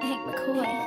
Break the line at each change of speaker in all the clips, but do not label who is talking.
Hank McCoy.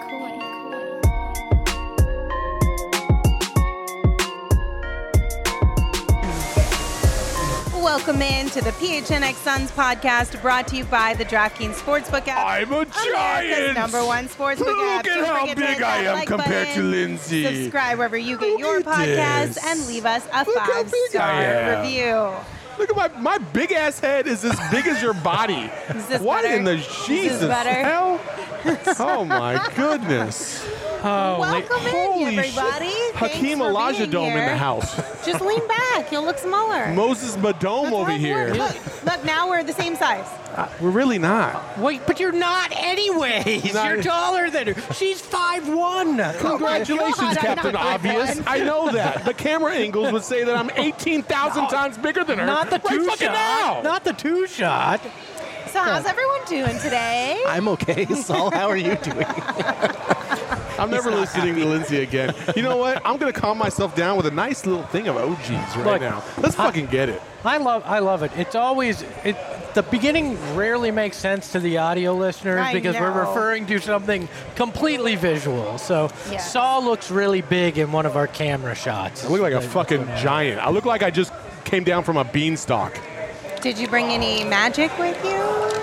Welcome in to the PHNX Suns podcast, brought to you by the DraftKings Sportsbook app.
I'm a giant.
America's #1 sportsbook app.
Look at
Don't
how
forget to
big
hit
I
that
am
like
compared
button,
to Lindsay.
Subscribe wherever you get
Look
your
at
podcasts
this.
and leave us a
Look how big I
5-star
am.
review.
Look at my big ass head is as big as your body.
Is this
What
better?
in the
Is this
Jesus
better?
hell? Oh my goodness.
Welcome in,
Holy
everybody.
shit.
Thanks
Hakeem
for
Elijah
being
Dome in
here.
the house.
Just lean back. You'll look smaller.
Moses Madome
That's
over
how it
here.
works. Look, now we're the same size.
We're really not.
Wait, but you're not anyways.
Not-
You're taller than her. She's 5'1".
Congratulations,
God, I'm
Captain
not
Obvious.
5'1".
I know that. The camera angles would say that I'm 18,000 times bigger than her.
Not the
right
two
fucking
shot.
now.
Not the two shot.
So how's everyone doing today?
I'm okay, Saul. How are you doing?
I'm never listening to Lindsay again. You know what? I'm going to calm myself down with a nice little thing of OGs right
Look,
now. Let's fucking get it.
I love it. It's always the beginning rarely makes sense to the audio listeners
I
because we're
know.
referring to something completely visual. So
Yes.
Saul looks really big in one of our camera shots.
I look like a fucking giant. I look like I just came down from a beanstalk.
Did you bring any magic with you?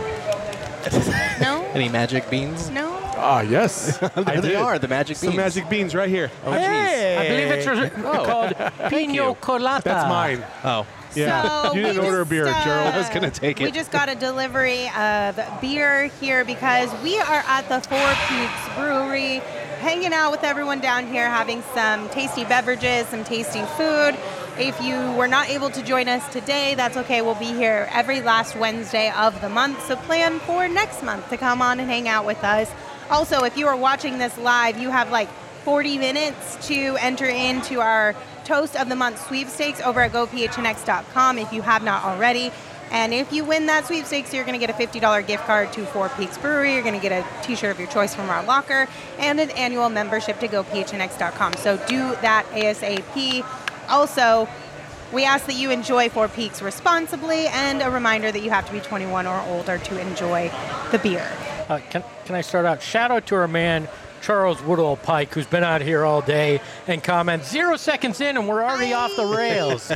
No?
Any magic beans?
No?
Ah, yes.
There
I
they
did.
are, the magic beans.
Some magic beans right here.
Oh,
Hey, I believe it's called Pino Colada.
That's mine.
Oh,
Yeah.
So
You didn't
we
order a
just,
beer, Gerald.
I was going to take
We
it.
just got a delivery of beer here because we are at the Four Peaks Brewery, hanging out with everyone down here, having some tasty beverages, some tasty food. If you were not able to join us today, that's okay. We'll be here every last Wednesday of the month, so plan for next month to come on and hang out with us. Also, if you are watching this live, you have like 40 minutes to enter into our Toast of the Month sweepstakes over at gophnx.com if you have not already. And if you win that sweepstakes, you're going to get a $50 gift card to Four Peaks Brewery. You're going to get a t-shirt of your choice from our locker and an annual membership to gophnx.com. So do that ASAP. Also, we ask that you enjoy Four Peaks responsibly, and a reminder that you have to be 21 or older to enjoy the beer.
Can I start out? Shout out to our man, Charles Woodall Pike, who's been out here all day and comments 0 seconds in and we're already off the rails.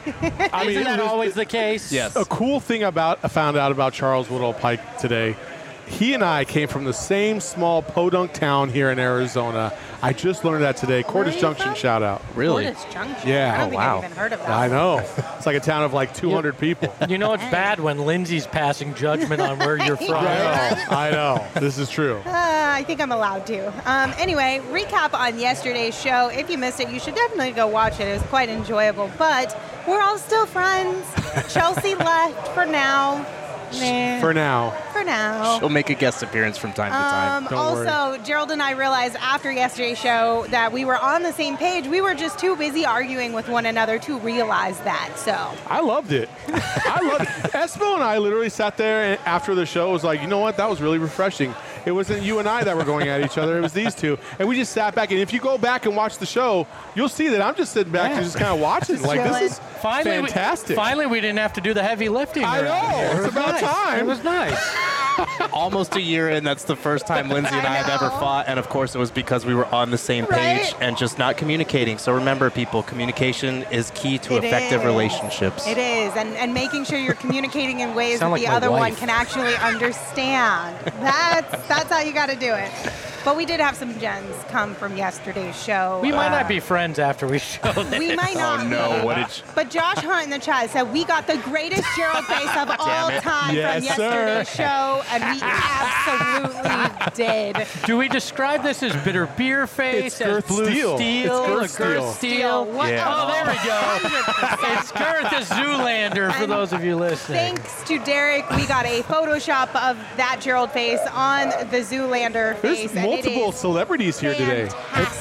I
Isn't that always the case?
Yes.
A cool thing I found out about Charles Woodall Pike today. He and I came from the same small podunk town here in Arizona. I just learned that today.
Where are
Cordis
you
Junction
from?
shout out.
Really?
Cordis Junction.
Yeah.
I don't
Oh,
think
wow.
I've even heard of that.
I know. It's like a town of like 200 people.
You know it's bad when Lindsay's passing judgment on where you're from.
I know. This is true.
I think I'm allowed to. Anyway, recap on yesterday's show. If you missed it, you should definitely go watch it. It was quite enjoyable. But we're all still friends. Chelsea left for now. Nah,
For now.
for now.
She'll make a guest appearance from time to time.
Don't worry.
Also, Gerald and I realized after yesterday's show that we were on the same page. We were just too busy arguing with one another to realize that. So
I loved it. I loved it. Espo and I literally sat there and after the show was like, you know what? That was really refreshing. It wasn't you and I that were going at each other. It was these two. And we just sat back. And if you go back and watch the show, you'll see that I'm just sitting back and just kind of watching. Like, this is fantastic.
Finally, we didn't have to do the heavy lifting.
I know.
around here.
It's
It was
about
nice.
time.
It was nice.
Almost a year in, that's the first time Lindsay and I have ever
know.
fought. And of course, it was because we were on the same
Right?
page and just not communicating. So remember, people, communication is key to
It
effective
is.
relationships.
it is, and making sure you're communicating in ways that
Sound like
the
my
other one
wife.
can actually understand. That's how you got to do it. But we did have some gems come from yesterday's show.
We might not be friends after we show this.
We might not.
Oh, no.
be.
What did
But Josh Hunt in the chat said we got the greatest Gerald face of all time
Yes,
from yesterday's
sir.
show, and we absolutely did.
Do we describe this as bitter beer face?
It's
as
Girth
blue
Steel.
steel?
It's Girth
or
Steel.
Girth steel?
What-
Yeah.
Oh, there we go. It's Girth the Zoolander for
And
those of you listening.
Thanks to Derek, we got a Photoshop of that Gerald face on the Zoolander
There's
face. and it
multiple
is
celebrities here today.
fantastic.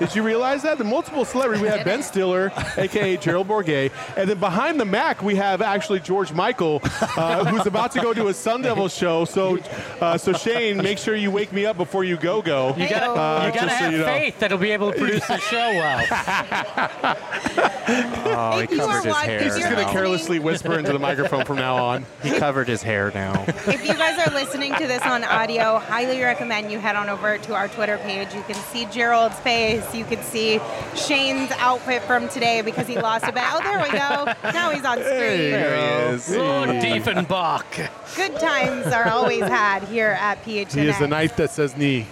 Did you realize that? The multiple celebrities, we have Ben Stiller, a.k.a. Gerald Bourguet, and then behind the Mac, we have actually George Michael, who's about to go to a Sun Devil show. So Shane, make sure you wake me up before you go.
You gotta have faith that he'll be able to produce the show well.
Oh, he covered his hair.
He's just going to carelessly whisper into the microphone from now on.
He covered his hair now.
If you guys are listening to this on audio, highly recommend you head on over to our Twitter page. You can see Gerald's face. You can see Shane's outfit from today because he lost a bet. Oh, there we go. Now he's on screen.
There he is.
Lord Diefenbach.
Good times are always had here at PHNX.
He is the knife that says knee.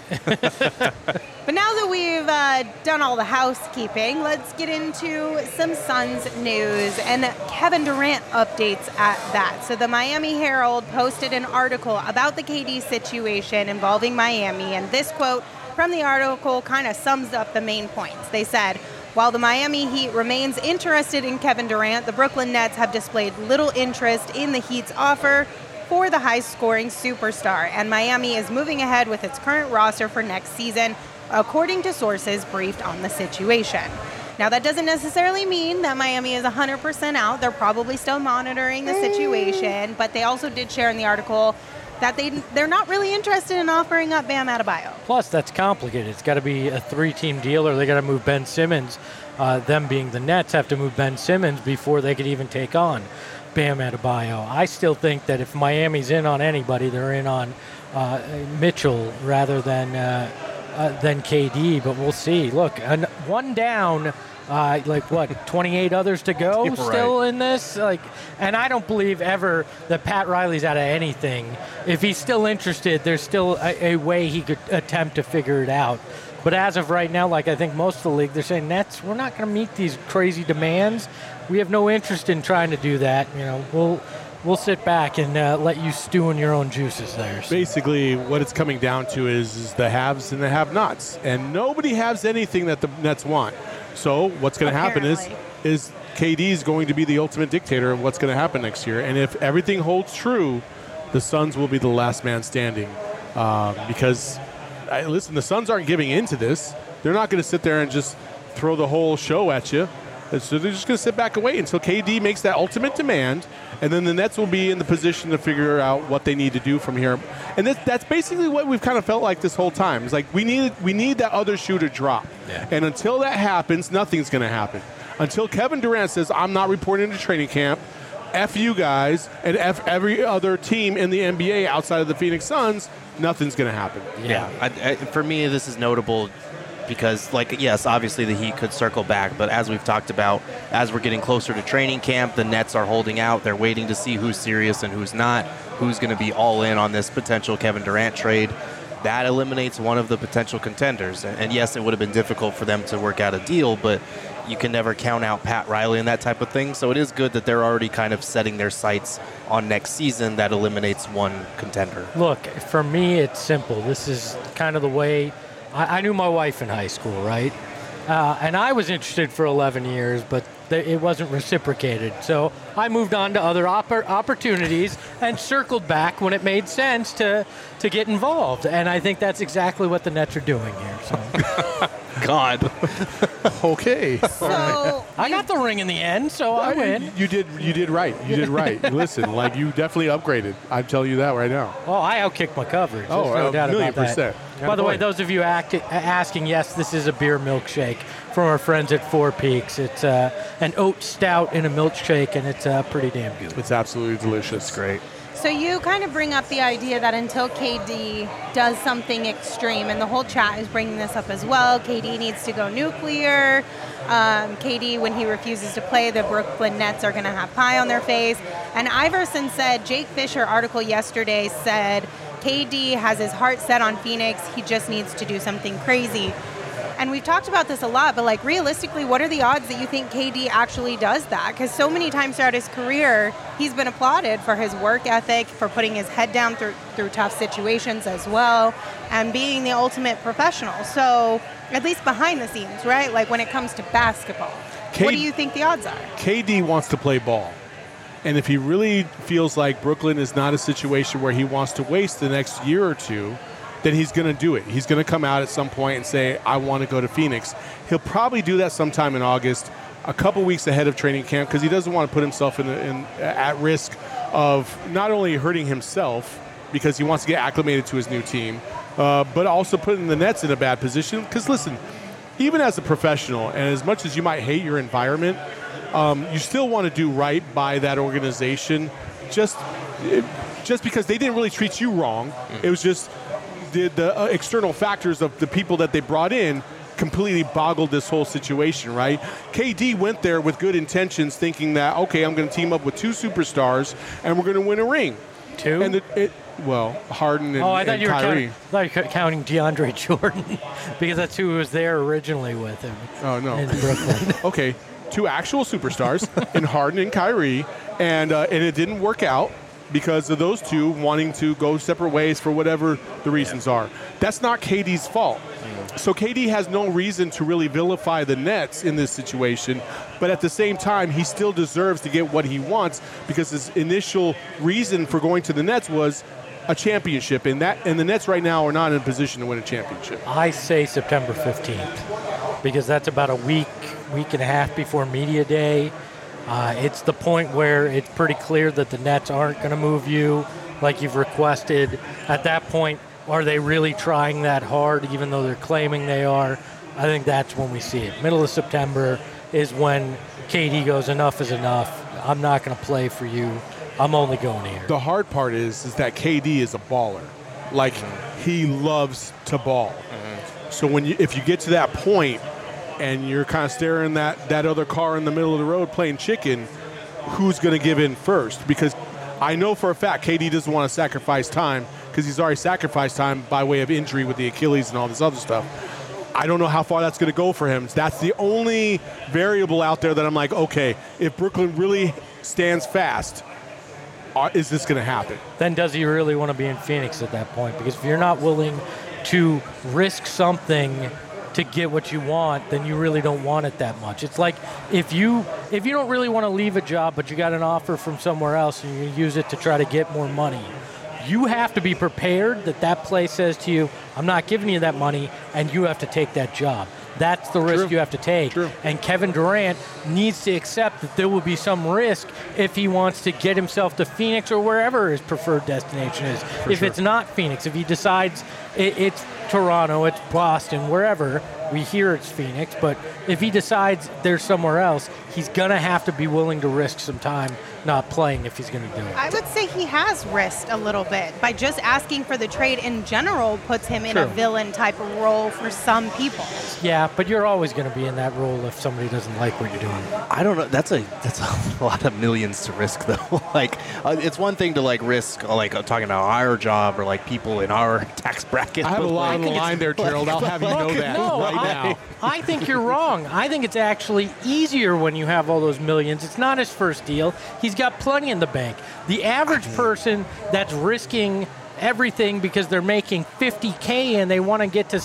But now that we've done all the housekeeping, let's get into some Suns news and Kevin Durant updates at that. So the Miami Herald posted an article about the KD situation involving Miami, and this quote from the article kind of sums up the main points. They said, while the Miami Heat remains interested in Kevin Durant, the Brooklyn Nets have displayed little interest in the Heat's offer for the high-scoring superstar, and Miami is moving ahead with its current roster for next season, according to sources briefed on the situation. Now, that doesn't necessarily mean that Miami is 100% out. They're probably still monitoring the situation, but they also did share in the article that they're not really interested in offering up Bam Adebayo.
Plus, that's complicated. It's got to be a 3-team deal, or they got to move Ben Simmons. Them being the Nets have to move Ben Simmons before they could even take on Bam Adebayo. I still think that if Miami's in on anybody, they're in on Mitchell rather than KD, but we'll see. Look, one down, 28 others to go
Right.
still in this. And I don't believe ever that Pat Riley's out of anything. If he's still interested, there's still a way he could attempt to figure it out. But as of right now, I think most of the league, they're saying, Nets, we're not going to meet these crazy demands. We have no interest in trying to do that. We'll sit back and let you stew in your own juices there. So.
Basically, what it's coming down to is the haves and the have-nots, and nobody has anything that the Nets want. So what's going to happen is KD's going to be the ultimate dictator of what's going to happen next year. And if everything holds true, the Suns will be the last man standing. Because, listen, the Suns aren't giving in to this. They're not going to sit there and just throw the whole show at you. So they're just going to sit back and wait until KD makes that ultimate demand, and then the Nets will be in the position to figure out what they need to do from here. And that's basically what we've kind of felt like this whole time. It's like we need that other shoe to drop. Yeah. And until that happens, nothing's going to happen. Until Kevin Durant says, I'm not reporting to training camp, F you guys, and F every other team in the NBA outside of the Phoenix Suns, nothing's going to happen.
Yeah. For me, this is notable because, yes, obviously the Heat could circle back, but as we've talked about, as we're getting closer to training camp, the Nets are holding out. They're waiting to see who's serious and who's not, who's going to be all in on this potential Kevin Durant trade. That eliminates one of the potential contenders. And yes, it would have been difficult for them to work out a deal, but you can never count out Pat Riley and that type of thing. So it is good that they're already kind of setting their sights on next season. That eliminates one contender.
Look, for me, it's simple. This is kind of the way I knew my wife in high school, right? And I was interested for 11 years, but it wasn't reciprocated. So I moved on to other opportunities and circled back when it made sense to get involved. And I think that's exactly what the Nets are doing here. So.
God.
Okay.
So
I got the ring in the end, so I win.
You did right. You did right. Listen, you definitely upgraded. I'm telling you that right now.
Oh, I outkicked my coverage. There's no doubt about that. By the way, those of you asking, yes, this is a beer milkshake from our friends at Four Peaks. It's an oat stout in a milkshake, and it's pretty damn good.
It's absolutely delicious.
It's great.
So you kind of bring up the idea that until KD does something extreme, and the whole chat is bringing this up as well, KD needs to go nuclear. KD, when he refuses to play, the Brooklyn Nets are going to have pie on their face. And Iverson said, Jake Fisher article yesterday said, KD has his heart set on Phoenix. He just needs to do something crazy. And we've talked about this a lot, but realistically, what are the odds that you think KD actually does that? Because so many times throughout his career, he's been applauded for his work ethic, for putting his head down through tough situations as well, and being the ultimate professional. So at least behind the scenes, right? When it comes to basketball, what do you think the odds are?
KD wants to play ball. And if he really feels like Brooklyn is not a situation where he wants to waste the next year or two, then he's going to do it. He's going to come out at some point and say, I want to go to Phoenix. He'll probably do that sometime in August, a couple weeks ahead of training camp, because he doesn't want to put himself at risk of not only hurting himself because he wants to get acclimated to his new team, but also putting the Nets in a bad position. Because listen, even as a professional, and as much as you might hate your environment, you still want to do right by that organization. Just because they didn't really treat you wrong, it was just the external factors of the people that they brought in completely boggled this whole situation, right? KD went there with good intentions, thinking that, okay, I'm going to team up with 2 superstars and we're going to win a ring.
2?
And Harden and,
I thought
and
you were
Kyrie.
counting DeAndre Jordan because that's who was there originally with him.
Oh, no.
In Brooklyn.
Okay, 2 actual superstars in Harden and Kyrie, and it didn't work out because of those 2 wanting to go separate ways for whatever the reasons are. That's not KD's fault. So KD has no reason to really vilify the Nets in this situation, but at the same time, he still deserves to get what he wants because his initial reason for going to the Nets was a championship, and the Nets right now are not in a position to win a championship.
I say September 15th because that's about a week and a half before media day. It's the point where it's pretty clear that the Nets aren't going to move you like you've requested. At that point, are they really trying that hard, even though they're claiming they are? I think that's when we see it. Middle of September is when KD goes, enough is enough. I'm not going to play for you. I'm only going here.
The hard part is that KD is a baller. Like, he loves to ball. So if you get to that point and you're kind of staring that other car in the middle of the road playing chicken, who's going to give in first? Because I know for a fact KD doesn't want to sacrifice time because he's already sacrificed time by way of injury with the Achilles and all this other stuff. I don't know how far that's going to go for him. That's the only variable out there that I'm like, okay, if Brooklyn really stands fast, is this going to happen?
Then does he really want to be in Phoenix at that point? Because if you're not willing to risk something to get what you want, then you really don't want it that much. It's like if you don't really want to leave a job, but you got an offer from somewhere else and you use it to try to get more money, you have to be prepared that place says to you, I'm not giving you that money, and you have to take that job. That's the risk you have to take.
True.
And Kevin Durant needs to accept that there will be some risk if he wants to get himself to Phoenix or wherever his preferred destination is. If it's not Phoenix, if he decides it's Toronto, it's Boston, wherever, we hear it's Phoenix, but if he decides there's somewhere else, he's going to have to be willing to risk some time not playing if he's going to do it.
I would say he has risked a little bit by just asking for the trade in general puts him in a villain type of role for some people.
Yeah, but you're always going to be in that role if somebody doesn't like what you're doing.
I don't know. That's a lot of millions to risk, though. It's one thing to risk, talking about our job or people in our tax bracket.
I have a lot on the line there, Gerald. I'll have you know that now.
I think you're wrong. I think it's actually easier when you have all those millions. It's not his first deal. He's got plenty in the bank. The average person that's risking everything because they're making $50K and they want to get to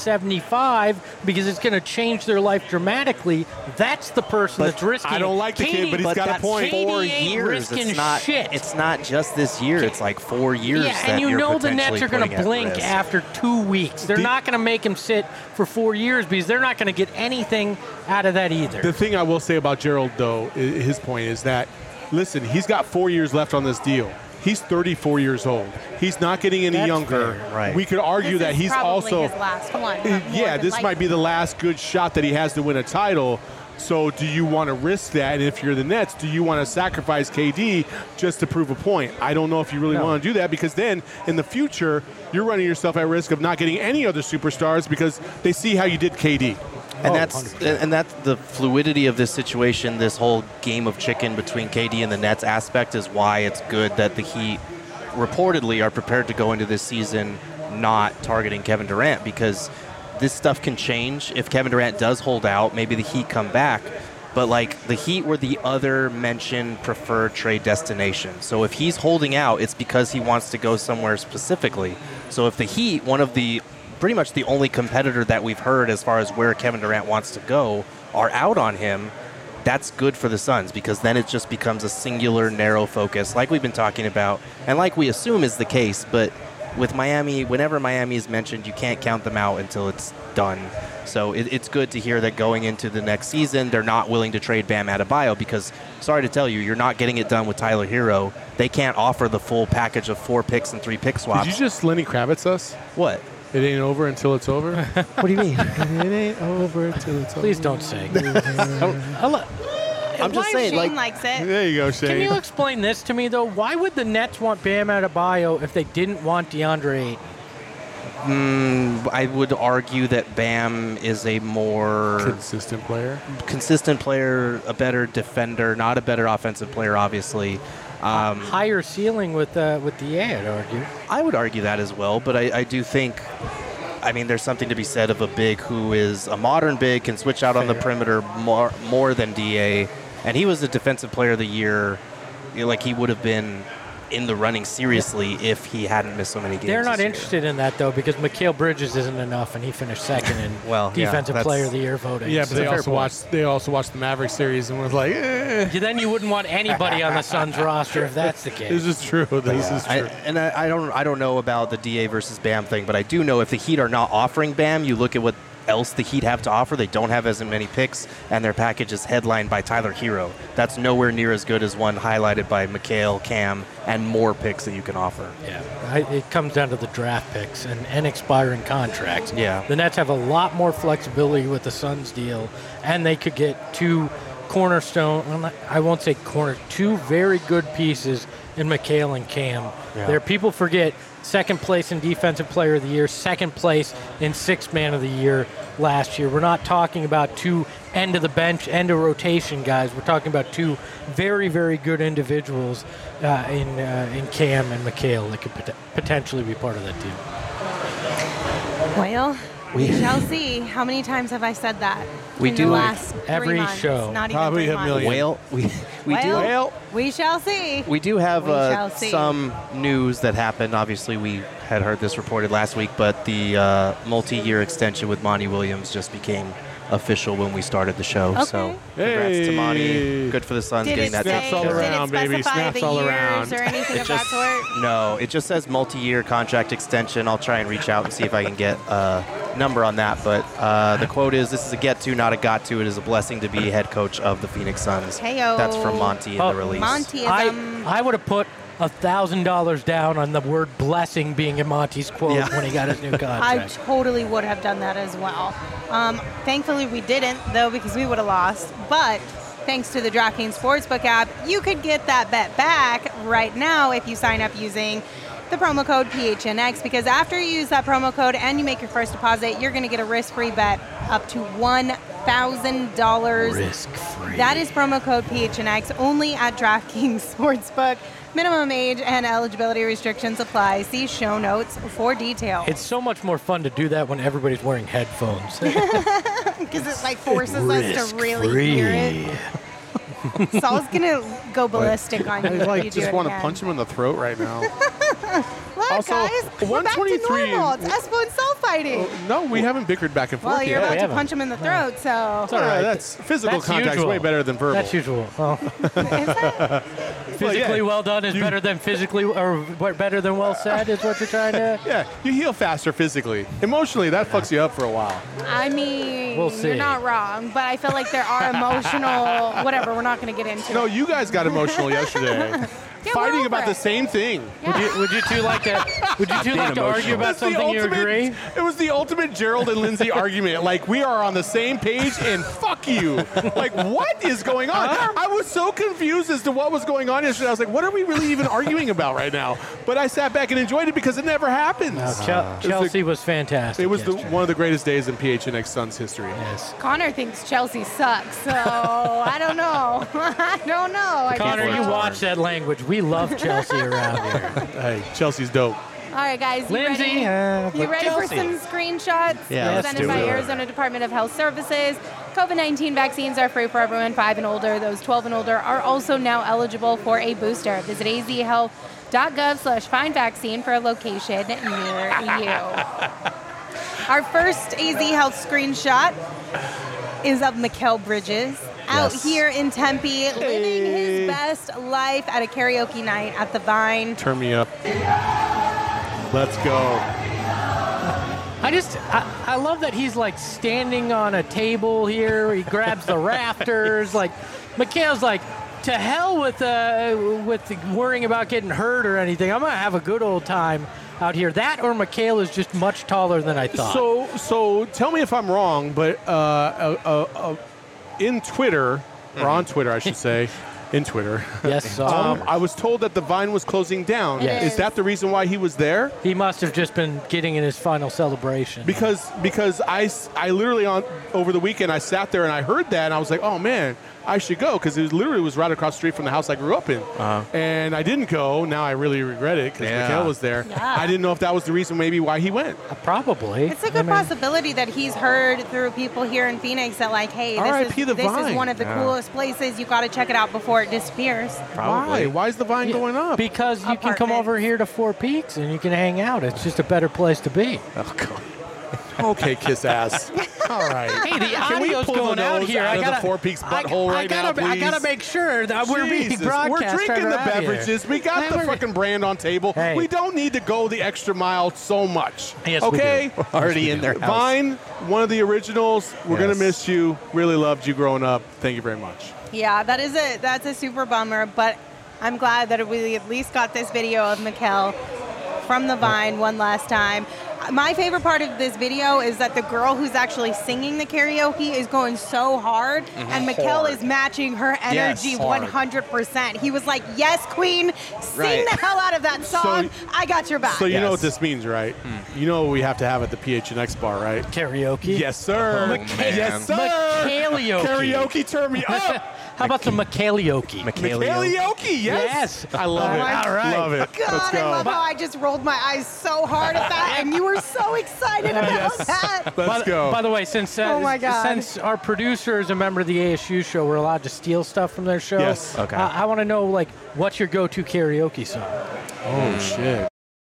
75 because it's going to change their life dramatically. That's the person that's risking.
I don't like the kid, but he's got a point.
4 years. It's not just this year. It's 4 years.
Yeah, and you know the Nets are going to blink after 2 weeks. They're not going to make him sit for 4 years because they're not going to get anything out of that either.
The thing I will say about Gerald, though, his point is that, listen, he's got 4 years left on this deal. He's 34 years old. He's not getting any younger.
Fair, right.
We could argue that he's also
his last one.
This might be the last good shot that he has to win a title. So do you want to risk that? And if you're the Nets, do you want to sacrifice KD just to prove a point? I don't know if you really want to do that because then in the future, you're running yourself at risk of not getting any other superstars because they see how you did KD.
And that's the fluidity of this situation, this whole game of chicken between KD and the Nets aspect is why it's good that the Heat reportedly are prepared to go into this season not targeting Kevin Durant because this stuff can change. If Kevin Durant does hold out, maybe the Heat come back. But the Heat were the other mentioned preferred trade destination. So if he's holding out, it's because he wants to go somewhere specifically. So if the Heat, pretty much the only competitor that we've heard as far as where Kevin Durant wants to go, are out on him, that's good for the Suns because then it just becomes a singular, narrow focus like we've been talking about and like we assume is the case. But with Miami, whenever Miami is mentioned, you can't count them out until it's done. So it's good to hear that going into the next season, they're not willing to trade Bam Adebayo because, sorry to tell you, you're not getting it done with Tyler Hero. They can't offer the full package of 4 picks and 3 pick swaps.
Did you just Lenny Kravitz us?
What?
It ain't over until it's over?
What do you mean?
It ain't over until it's over.
Please don't sing.
I'm just saying,
Shane
like,
likes it.
There you go, Shane.
Can you explain this to me, though? Why would the Nets want Bam Adebayo if they didn't want DeAndre Ayton?
I would argue that Bam is a more
consistent player,
a better defender, not a better offensive player, obviously.
Higher ceiling with DA, I'd argue.
I would argue that as well, but I do think, I mean, there's something to be said of a big who is a modern big, can switch out on the perimeter more than DA, and he was the defensive player of the year. Like, he would have been in the running seriously if he hadn't missed so many games.
They're not
this year.
interested in that, though, because Mikal Bridges isn't enough, and he finished second in Defensive Player of the Year voting.
Yeah, but
So
they also watched the Maverick series and was like, eh.
Yeah, then you wouldn't want anybody on the Suns roster if that's the case.
This is true. This is true.
I don't know about the DA versus Bam thing, but I do know if the Heat are not offering Bam, you look at what else the Heat have to offer. They don't have as many picks, and their package is headlined by Tyler Hero. That's nowhere near as good as one highlighted by Mikal, Cam, and more picks that you can offer.
Yeah, it comes down to the draft picks and expiring contracts.
Yeah.
The Nets have a lot more flexibility with the Suns deal, and they could get 2 cornerstone, I won't say corner, 2 very good pieces in Mikal and Cam.
Yeah.
There, people forget second place in Defensive Player of the Year, second place in Sixth Man of the Year last year. We're not talking about 2 end of the bench, end of rotation guys. We're talking about 2 very, very good individuals in Cam and Mikal that could potentially be part of that team.
Well, we shall see. How many times have I said that?
We
in
do
the last
every
3 months?
show.
Not
Probably
even 3
a
months.
million.
Well,
We shall see.
We do have
We shall see.
some news that happened. Obviously, we had heard this reported last week, but the multi-year extension with Monty Williams just became official when we started the show.
Okay.
So congrats to Monty. Good for the Suns
Did
getting
it
that.
Snaps all
say,
around,
did it
baby.
specify
Snaps
the
all
years
around.
or anything of that sort?
No, it just says multi-year contract extension. I'll try and reach out and see if I can get a number on that. But the quote is, "This is a get to, not a got to. It is a blessing to be head coach of the Phoenix Suns."
Heyo.
That's from Monty in the release.
Montyism.
I would have put $1,000 down on the word blessing being in Monty's quote when he got his new
I
contract.
totally would have done that as well. Thankfully, we didn't, though, because we would have lost. But thanks to the DraftKings Sportsbook app, you could get that bet back right now if you sign up using the promo code PHNX, because after you use that promo code and you make your first deposit, you're going to get a risk-free bet up to $1,000.
Risk-free.
That is promo code PHNX only at DraftKings Sportsbook. Minimum age and eligibility restrictions apply. See show notes for details.
It's so much more fun to do that when everybody's wearing headphones.
Because it like forces us to really hear it. Saul's gonna go ballistic on you.
I
if
like
you do
just
it
want to
again.
punch him in the throat right now.
Look,
Also,
guys, we're back to
123
normal. It's Espo and Saul fighting.
No, we haven't bickered back and forth
Well, you're
yet.
about
we
to
haven't.
punch him in the throat, so.
It's all right.
That's physical
That's
contact's
usual.
way better than verbal.
That's usual. Well,
Is that?
physically well done is better than physically, or better than well said is what you're trying to.
Yeah, you heal faster physically. Emotionally, that fucks you up for a while.
I mean,
We'll see.
you're not wrong, but I feel like there are emotional, whatever, we're not going to get into
No,
it.
you guys got emotional yesterday.
Yeah,
Fighting
we're
about
over
the
it.
same thing.
Would you two like to? Would you two like to argue about
That's the
something you
ultimate-
agree?
It was the ultimate Gerald and Lindsay argument. Like, we are on the same page and fuck you. Like, what is going on? I was so confused as to what was going on yesterday. I was like, what are we really even arguing about right now? But I sat back and enjoyed it because it never happens.
Chelsea was fantastic.
It was
yesterday.
one of the greatest days in PHNX Suns history.
Yes.
Connor thinks Chelsea sucks, so I don't know. I don't know. I
Connor,
guess
you
so.
watch that language. We love Chelsea around here.
Hey, Chelsea's dope.
All right, guys.
Lindsay,
You ready for
Chelsea.
some screenshots?
Yeah, let's
presented
do
by
it.
Arizona Department of Health Services. COVID-19 vaccines are free for everyone 5 and older. Those 12 and older are also now eligible for a booster. Visit azhealth.gov/findvaccine for a location near you. Our first AZ Health screenshot is of Mikal Bridges. Out
Yes.
here in Tempe, living his best life at a karaoke night at the Vine.
Turn me up. Let's go.
I love that he's like standing on a table here. He grabs the rafters. Like, Mikhail's like, to hell with worrying about getting hurt or anything. I'm going to have a good old time out here. That or Mikhail is just much taller than I thought.
So tell me if I'm wrong, but in Twitter, or on Twitter, I should say, in Twitter.
Yes.
I was told that the Vine was closing down.
Yes.
Is that the reason why he was there?
He must have just been getting in his final celebration.
Because I literally over the weekend I sat there and I heard that and I was like, oh man, I should go, because it was right across the street from the house I grew up in. And I didn't go. Now I really regret it because Mikhail was there.
Yeah.
I didn't know if that was the reason maybe why he went.
Probably.
It's a good possibility that he's heard through people here in Phoenix that, like, hey, this is one of the coolest places. You got to check it out before it disappears.
Probably. Why is the Vine going up?
Because you can come over here to Four Peaks and you can hang out. It's just a better place to be.
Oh, God.
Okay, kiss ass. All right.
Hey, the
Can we
audio's
pull
going
the
out
nose
here.
out
I
of
gotta,
the Four Peaks butthole right now, please?
I gotta make sure that we're being
Jesus,
broadcast.
we're drinking the
right out
beverages.
here.
We got
Hey,
the
we're-
fucking brand on table.
Hey.
We don't need to go the extra mile so much.
Yes, we
okay?
do.
Already in their house.
Vine, one of the originals. We're
Yes.
gonna miss you. Really loved you growing up. Thank you very much.
Yeah, that's a super bummer, but I'm glad that we at least got this video of Mikhail from the Vine one last time. My favorite part of this video is that the girl who's actually singing the karaoke is going so hard, and Mikhail is matching her energy
Yes, hard.
100%. He was like, yes, queen, sing
Right.
the hell out of that song. I got your back.
So you know
Yes.
what this means, right? You know what we have to have at the PHNX bar, right?
Karaoke?
Yes, sir.
man.
Yes, sir.
Mikhailioke.
Karaoke, turn me up.
How about some Mikhailioke?
Karaoke, yes.
Yes.
I love it.
All right.
Love it.
God,
Let's go.
I love how I just rolled my eyes so hard at that, and you were so excited about that.
Let's go.
By the way, since
Oh my God.
since our producer is a member of the ASU show, we're allowed to steal stuff from their show.
Yes.
Okay.
I want to know, like, what's your go-to karaoke song?
Oh, shit.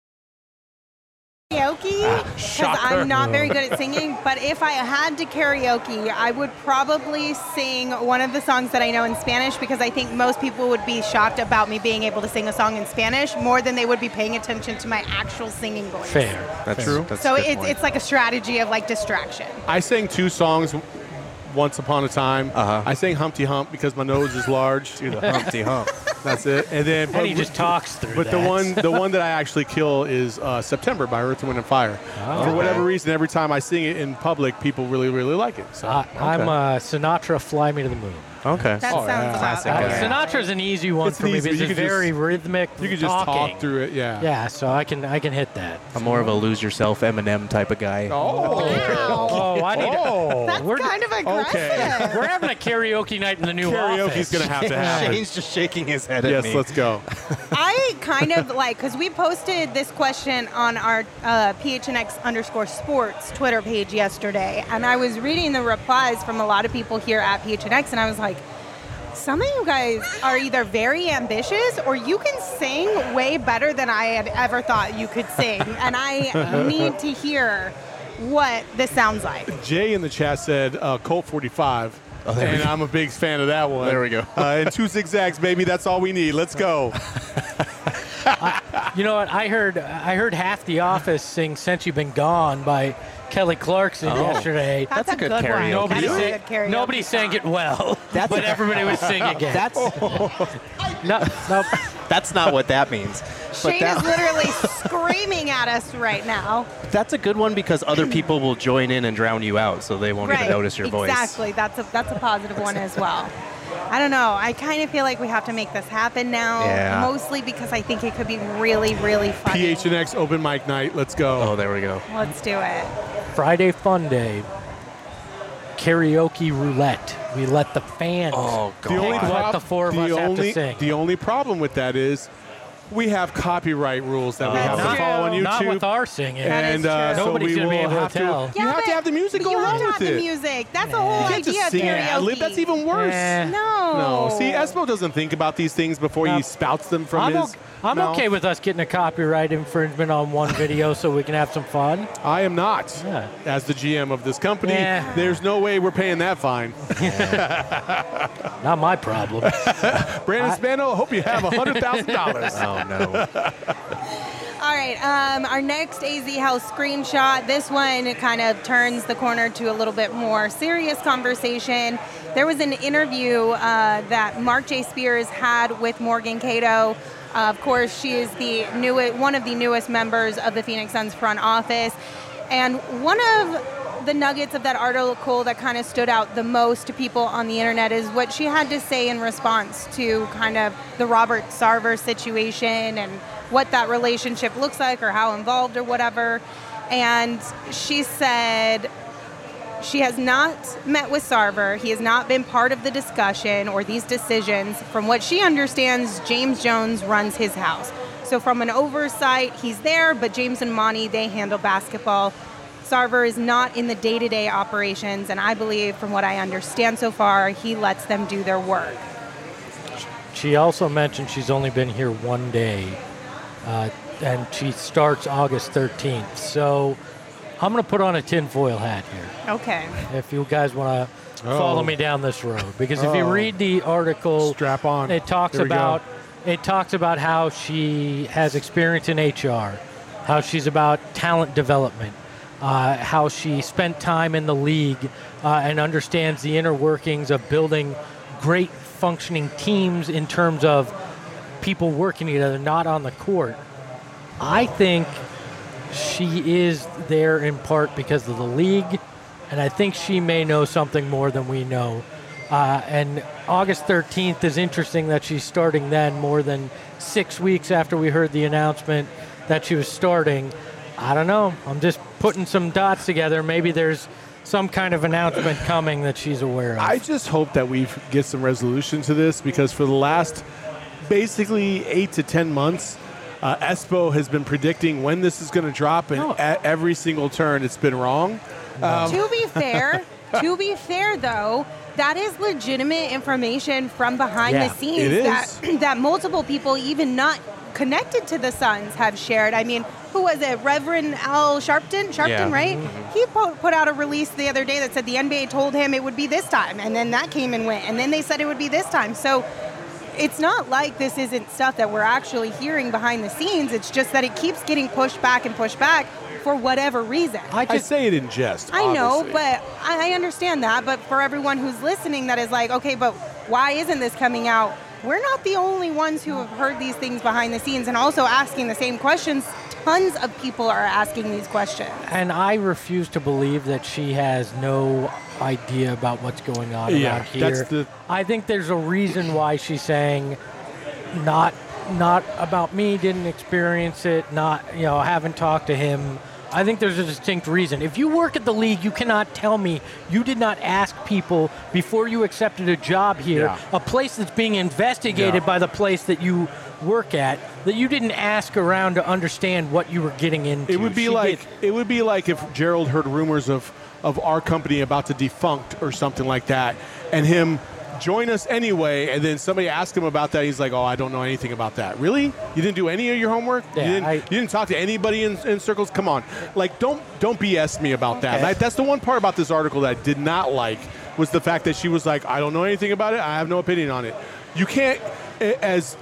Karaoke, because I'm not very good at singing, but if I had to karaoke, I would probably sing one of the songs that I know in Spanish, because I think most people would be shocked about me being able to sing a song in Spanish more than they would be paying attention to my actual singing voice.
Fair.
That's
True.
That's
So
a good point.
it's like a strategy of like distraction.
I sang 2 songs once upon a time.
Uh-huh.
I sang Humpty Hump because my nose is large.
Do the Humpty Hump.
That's it. And then,
And he just talks through
But
that.
the one that I actually kill is September by Earth, Wind, and Fire. For whatever reason, every time I sing it in public, people really, really like it. So
I'm Sinatra, Fly Me to the Moon.
Okay.
That
Oh,
sounds
yeah.
about
Classic.
right.
Okay.
Sinatra's an easy one
It's
for me
easy.
because
You
it's
could just-
very rhythmic.
you could just
talking.
talk through it. Yeah.
Yeah, so I can hit that.
I'm more of a lose yourself Eminem type of guy.
Oh.
Oh, I need.
That's
We're-
kind of aggressive.
We're having a karaoke night in the new
Karaoke's
office.
going to have to happen.
Shane's just shaking his head at
Yes,
me.
let's go.
I kind of like, because we posted this question on our PHNX_sports Twitter page yesterday, and I was reading the replies from a lot of people here at PHNX, and I was like, some of you guys are either very ambitious or you can sing way better than I had ever thought you could sing, and I need to hear what this sounds like.
Jay in the chat said Colt 45. And I'm a big fan of that one.
There we go.
And 2 zigzags, baby. That's all we need. Let's go.
You know what? I heard half the office sing "Since You've Been Gone" by Kelly Clarkson yesterday.
That's a good
karaoke.
one.
Nobody
That's a
sang,
good karaoke
nobody sang
song.
it well,
That's-
but everybody was singing it.
That's
no.
that's not what that means. But
Shane is literally screaming at us right now.
that's a good one because other people will join in and drown you out, so they won't even notice your voice.
Exactly. That's a positive one as well. I don't know. I kind of feel like we have to make this happen now,
Yeah.
mostly because I think it could be really, really funny.
PHNX open mic night. Let's go.
Oh, there we go.
Let's do it.
Friday Fun Day. Karaoke roulette. We let the fans
Oh,
The
God.
only
pick what
prob-
the four of
the
us have
only-
to sing.
The only problem with that is we have copyright rules that we
That's
have to follow on
true.
YouTube.
Not with our singing.
That is
and
true.
so
Nobody's
we
gonna be
will
able to
have
tell.
You have to have the music go
You have
along
to have
with
the
it.
music. That's the whole
You can't
idea
just
of
sing
karaoke.
and ad-lib. That's even worse.
Eh.
No.
No. See, Espo doesn't think about these things before
No.
he spouts them from his
I'm
mouth.
okay with us getting a copyright infringement on one video so we can have some fun.
I am not.
Yeah.
As the GM of this company,
Yeah.
there's no way we're paying that fine.
Not my problem.
Brandon Spano, I hope you have $100,000.
Oh, no.
All right, our next AZ Health screenshot. This one kind of turns the corner to a little bit more serious conversation. There was an interview that Mark J. Spears had with Morgan Cato. Of course, she is one of the newest members of the Phoenix Suns front office. And one of the nuggets of that article that kind of stood out the most to people on the internet is what she had to say in response to kind of the Robert Sarver situation and what that relationship looks like or how involved or whatever. And she said she has not met with Sarver. He has not been part of the discussion or these decisions. From what she understands, James Jones runs his house. So from an oversight, he's there, but James and Monty, they handle basketball. Sarver is not in the day-to-day operations, and I believe, from what I understand so far, he lets them do their work.
She also mentioned she's only been here one day, and she starts August 13th. So I'm going to put on a tinfoil hat here.
Okay.
If you guys want to follow me down this road. Because if you read the article,
strap on.
It talks about how she has experience in HR, how she's about talent development, how she spent time in the league and understands the inner workings of building great functioning teams in terms of people working together, not on the court. I think she is there in part because of the league, and I think she may know something more than we know. And August 13th is interesting that she's starting then, more than 6 weeks after we heard the announcement that she was starting. I don't know. I'm just putting some dots together. Maybe there's some kind of announcement coming that she's aware of.
I just hope that we get some resolution to this, because for the last basically 8 to 10 months, Espo has been predicting when this is going to drop, and at every single turn it's been wrong.
To be fair, though, that is legitimate information from behind the scenes
it is.
that multiple people, even not connected to the Suns, have shared. I mean, who was it? Reverend Al Sharpton, right? Mm-hmm. He put out a release the other day that said the NBA told him it would be this time, and then that came and went, and then they said it would be this time. So it's not like this isn't stuff that we're actually hearing behind the scenes. It's just that it keeps getting pushed back for whatever reason.
I say it in jest.
I know, but I understand that. But for everyone who's listening that is like, okay, but why isn't this coming out? We're not the only ones who have heard these things behind the scenes and also asking the same questions. Tons of people are asking these questions.
And I refuse to believe that she has no idea about what's going on around here. I think there's a reason why she's saying not about me, didn't experience it, haven't talked to him. I think there's a distinct reason. If you work at the league, you cannot tell me you did not ask people before you accepted a job here, a place that's being investigated by the place that you work at, that you didn't ask around to understand what you were getting into.
It would be like if Gerald heard rumors of our company about to defunct or something like that, and him join us anyway, and then somebody asked him about that. He's like, "Oh, I don't know anything about that." Really? You didn't do any of your homework?
Yeah,
you didn't talk to anybody in circles? Come on, like don't BS me about that. That's the one part about this article that I did not like, was the fact that she was like, "I don't know anything about it. I have no opinion on it." You can't, as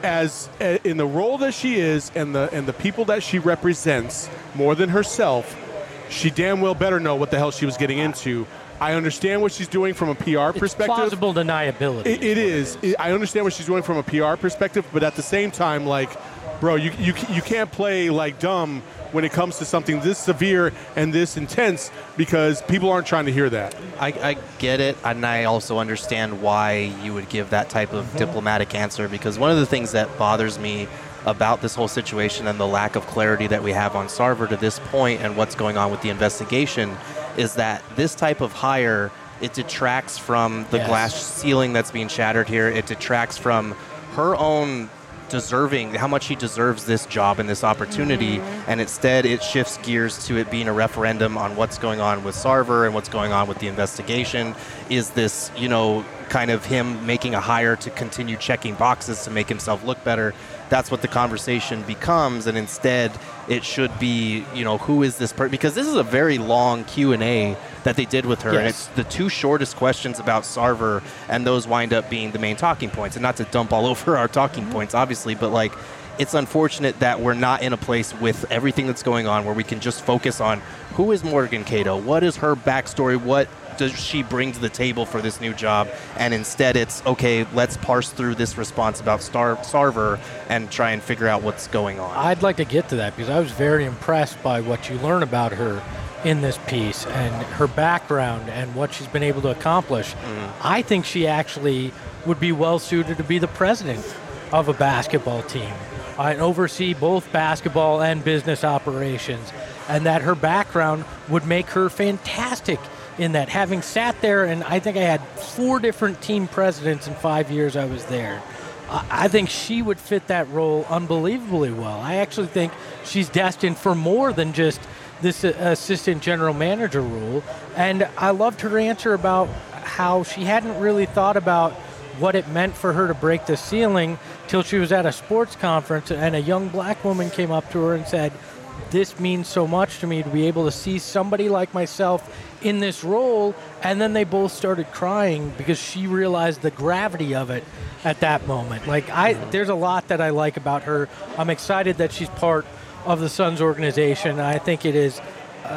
in the role that she is and the people that she represents more than herself, she damn well better know what the hell she was getting into. I understand what she's doing from a PR perspective.
It's plausible deniability.
It is. I understand what she's doing from a PR perspective, but at the same time, like, bro, you can't play like dumb when it comes to something this severe and this intense, because people aren't trying to hear that.
I get it, and I also understand why you would give that type of diplomatic answer, because one of the things that bothers me about this whole situation and the lack of clarity that we have on Sarver to this point and what's going on with the investigation is that this type of hire, it detracts from the glass ceiling that's being shattered here. It detracts from her own deserving, how much she deserves this job and this opportunity, and instead it shifts gears to it being a referendum on what's going on with Sarver and what's going on with the investigation. Is this, kind of him making a hire to continue checking boxes to make himself look better? That's what the conversation becomes, and instead it should be, who is this person? Because this is a very long Q&A that they did with her, and it's the two shortest questions about Sarver, and those wind up being the main talking points. And not to dump all over our talking points, obviously, but like it's unfortunate that we're not in a place with everything that's going on where we can just focus on who is Morgan Cato, what is her backstory, what does she bring to the table for this new job, and instead it's, okay, let's parse through this response about Sarver and try and figure out what's going on.
I'd like to get to that because I was very impressed by what you learn about her in this piece and her background and what she's been able to accomplish. I think she actually would be well suited to be the president of a basketball team and oversee both basketball and business operations, and that her background would make her fantastic in that. Having sat there, and I think I had 4 different team presidents in 5 years I was there, I think she would fit that role unbelievably well. I actually think she's destined for more than just this assistant general manager role. And I loved her answer about how she hadn't really thought about what it meant for her to break the ceiling till she was at a sports conference and a young black woman came up to her and said, "This means so much to me to be able to see somebody like myself in this role." And then they both started crying because she realized the gravity of it at that moment. There's a lot that I like about her. I'm excited that she's part of the Suns organization. I think it is,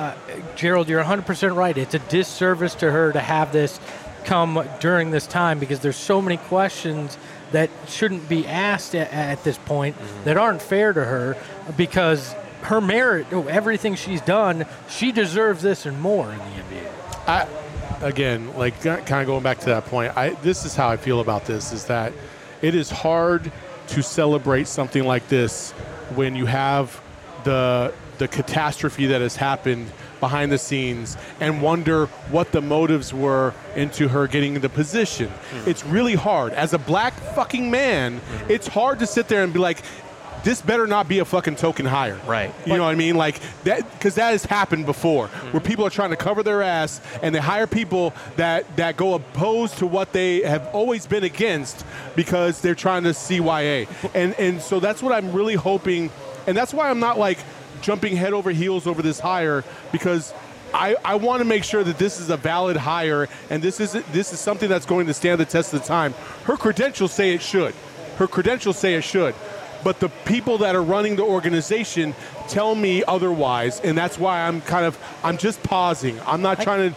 Gerald, you're 100% right. It's a disservice to her to have this come during this time because there's so many questions that shouldn't be asked at this point that aren't fair to her because her merit, everything she's done, she deserves this and more in the NBA.
Again, kind of going back to that point, this is how I feel about this, is that it is hard to celebrate something like this when you have the catastrophe that has happened behind the scenes and wonder what the motives were into her getting the position. It's really hard. As a black fucking man, it's hard to sit there and be like, this better not be a fucking token hire.
Right.
You know what I mean? Like that, because that has happened before, where people are trying to cover their ass and they hire people that go opposed to what they have always been against because they're trying to CYA. And so that's what I'm really hoping, and that's why I'm not jumping head over heels over this hire, because I want to make sure that this is a valid hire and this is something that's going to stand the test of the time. Her credentials say it should. But the people that are running the organization tell me otherwise, and that's why I'm just pausing. I'm not trying to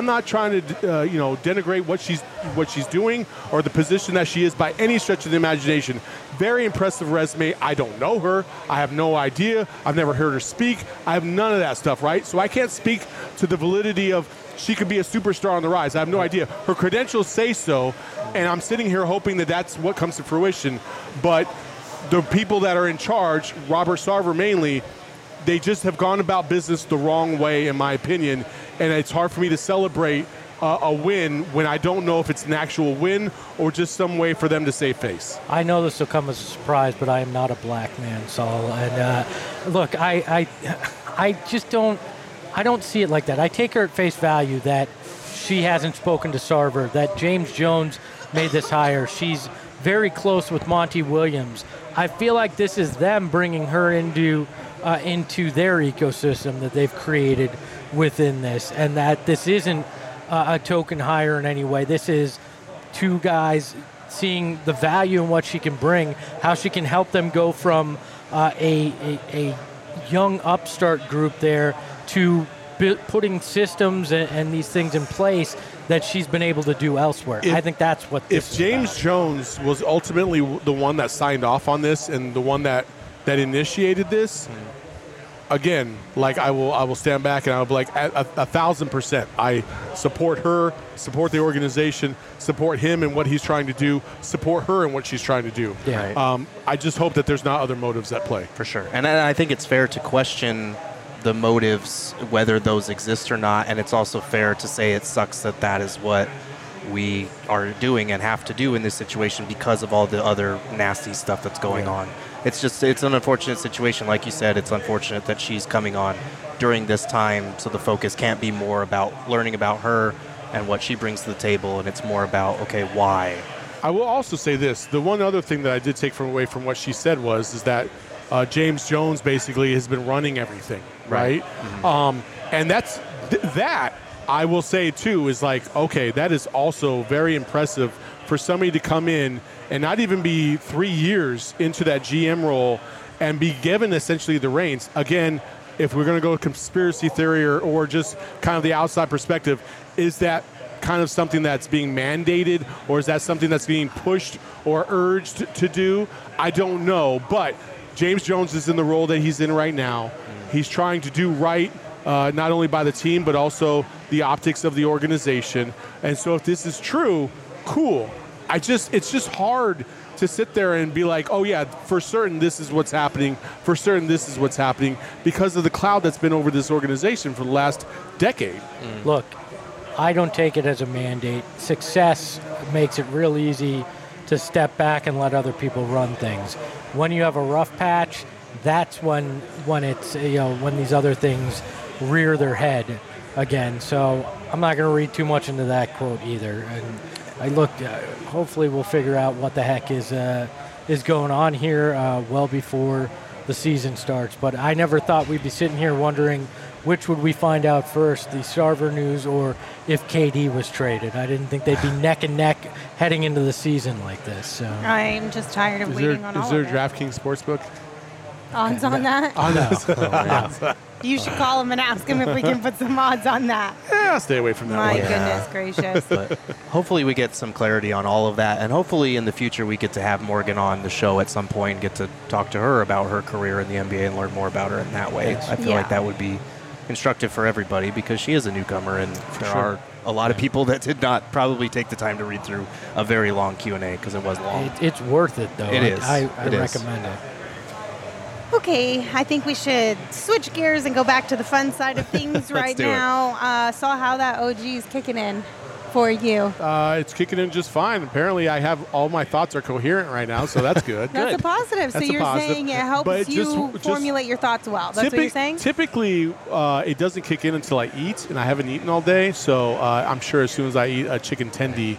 denigrate what she's doing or the position that she is by any stretch of the imagination. Very impressive resume. I don't know her. I have no idea. I've never heard her speak. I have none of that stuff, right? So I can't speak to the validity of she could be a superstar on the rise. I have no idea. Her credentials say so, and I'm sitting here hoping that that's what comes to fruition. But the people that are in charge, Robert Sarver mainly, they just have gone about business the wrong way, in my opinion, and it's hard for me to celebrate a win when I don't know if it's an actual win or just some way for them to save face.
I know this will come as a surprise, but I am not a black man, Saul. And look, I just don't see it like that. I take her at face value that she hasn't spoken to Sarver, that James Jones made this hire. She's very close with Monty Williams. I feel like this is them bringing her into their ecosystem that they've created within this, and that this isn't a token hire in any way. This is 2 guys seeing the value in what she can bring, how she can help them go from a young upstart group there to putting systems and these things in place that she's been able to do elsewhere. I think that's what this is.
If James Jones was ultimately the one that signed off on this and the one that initiated this, again, I will stand back and I'll be like 1,000%. I support her, support the organization, support him and what he's trying to do, support her and what she's trying to do.
Yeah.
I just hope that there's not other motives at play.
For sure. And I think it's fair to question the motives, whether those exist or not, and it's also fair to say it sucks that is what we are doing and have to do in this situation because of all the other nasty stuff that's going on. It's an unfortunate situation. Like you said, it's unfortunate that she's coming on during this time, so the focus can't be more about learning about her and what she brings to the table, and it's more about, okay, why?
I will also say this. The one other thing that I did take away from what she said is that James Jones basically has been running everything, right? Mm-hmm. And that I will say, too, is like, okay, that is also very impressive for somebody to come in and not even be 3 years into that GM role and be given essentially the reins. Again, if we're going to go with conspiracy theory or just kind of the outside perspective, is that kind of something that's being mandated, or is that something that's being pushed or urged to do? I don't know, but James Jones is in the role that he's in right now. He's trying to do right, not only by the team, but also the optics of the organization. And so if this is true, cool. It's just hard to sit there and be like, oh yeah, for certain this is what's happening, for certain this is what's happening, because of the cloud that's been over this organization for the last decade.
Look, I don't take it as a mandate. Success makes it real easy to step back and let other people run things. When you have a rough patch, that's when it's, when these other things rear their head again. So I'm not going to read too much into that quote either. And hopefully we'll figure out what the heck is going on here well before the season starts. But I never thought we'd be sitting here wondering which would we find out first, the Sarver news or if KD was traded. I didn't think they'd be neck and neck heading into the season like this. So
I'm just tired of waiting on all of it.
Is there a DraftKings Sportsbook?
Odds on that?
No.
You should call him and ask him if we can put some odds on that.
Yeah, I'll stay away from that
My
one.
goodness gracious.
But hopefully we get some clarity on all of that, and hopefully in the future we get to have Morgan on the show at some point and get to talk to her about her career in the NBA and learn more about her in that way. I feel like that would be instructive for everybody because she is a newcomer, and there are a lot of people that did not probably take the time to read through a very long Q&A because it was long.
It's worth it, though.
It is.
I recommend it.
Okay, I think we should switch gears and go back to the fun side of things right now. Saw how that OG is kicking in for you.
It's kicking in just fine. Apparently, I have all my thoughts are coherent right now, so that's good.
That's a positive.
That's
so you're
positive.
saying it helps you formulate your thoughts well. That's what you're saying?
Typically, it doesn't kick in until I eat, and I haven't eaten all day. So I'm sure as soon as I eat a chicken tendy,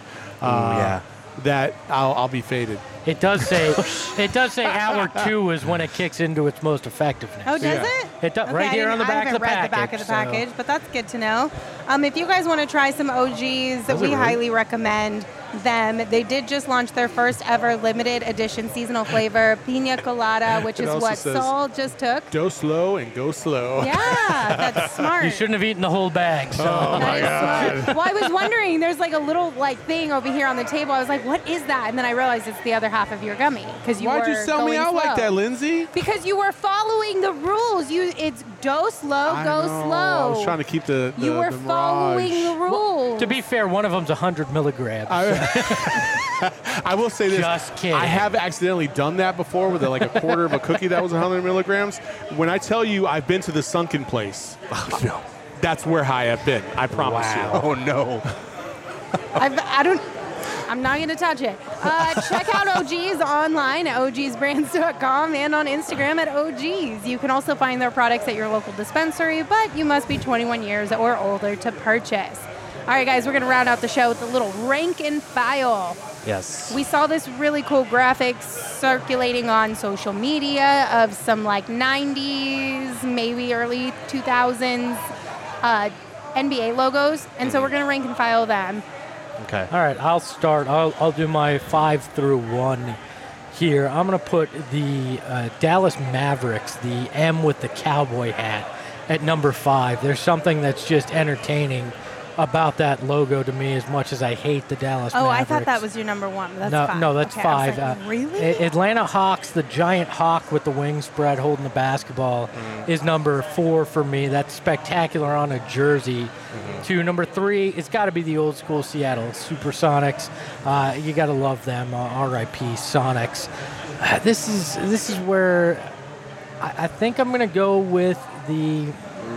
that I'll be faded.
It does say hour 2 is when it kicks into its most effectiveness.
Oh, does it?
It does.
Okay,
Right here on the back of the package.
I haven't read the back of the package, but that's good to know. If you guys want to try some OGs, we highly recommend them. They did just launch their first ever limited edition seasonal flavor, Pina Colada, which is what Saul just took.
Go slow and go slow.
Yeah, that's smart.
You shouldn't have eaten the whole bag. So.
Oh, my God.
Smart. Well, I was wondering, there's like a little thing over here on the table. I was like, what is that? And then I realized it's the other half of your gummy.
Why'd you sell me out
slow.
like that, Lindsay?
Because you were following the rules. It's go slow, go slow.
I was trying to keep the
You were
the
following
mirage.
the rules.
To be fair, one of them's 100 milligrams.
I will say this.
Just kidding.
I have accidentally done that before with a quarter of a cookie that was 100 milligrams. When I tell you I've been to the sunken place, that's where high I've been. I promise you.
Oh, no.
I'm not going to touch it. Check out OGs online at ogsbrands.com and on Instagram at OGs. You can also find their products at your local dispensary, but you must be 21 years or older to purchase. All right, guys, we're going to round out the show with a little rank and file.
Yes.
We saw this really cool graphic circulating on social media of some 90s, maybe early 2000s NBA logos, and so we're going to rank and file them.
Okay.
All right, I'll start. I'll do my 5 through 1 here. I'm going to put the Dallas Mavericks, the M with the cowboy hat, at number 5. There's something that's just entertaining about that logo to me as much as I hate the Dallas Mavericks.
I thought that was your number 1. But that's 5.
No, that's 5.
Like, really?
Atlanta Hawks, the giant hawk with the wings spread holding the basketball, is number 4 for me. That's spectacular on a jersey. To number 3, it's got to be the old school Seattle Supersonics. You got to love them. R.I.P. Sonics. This is where I think I'm going to go with the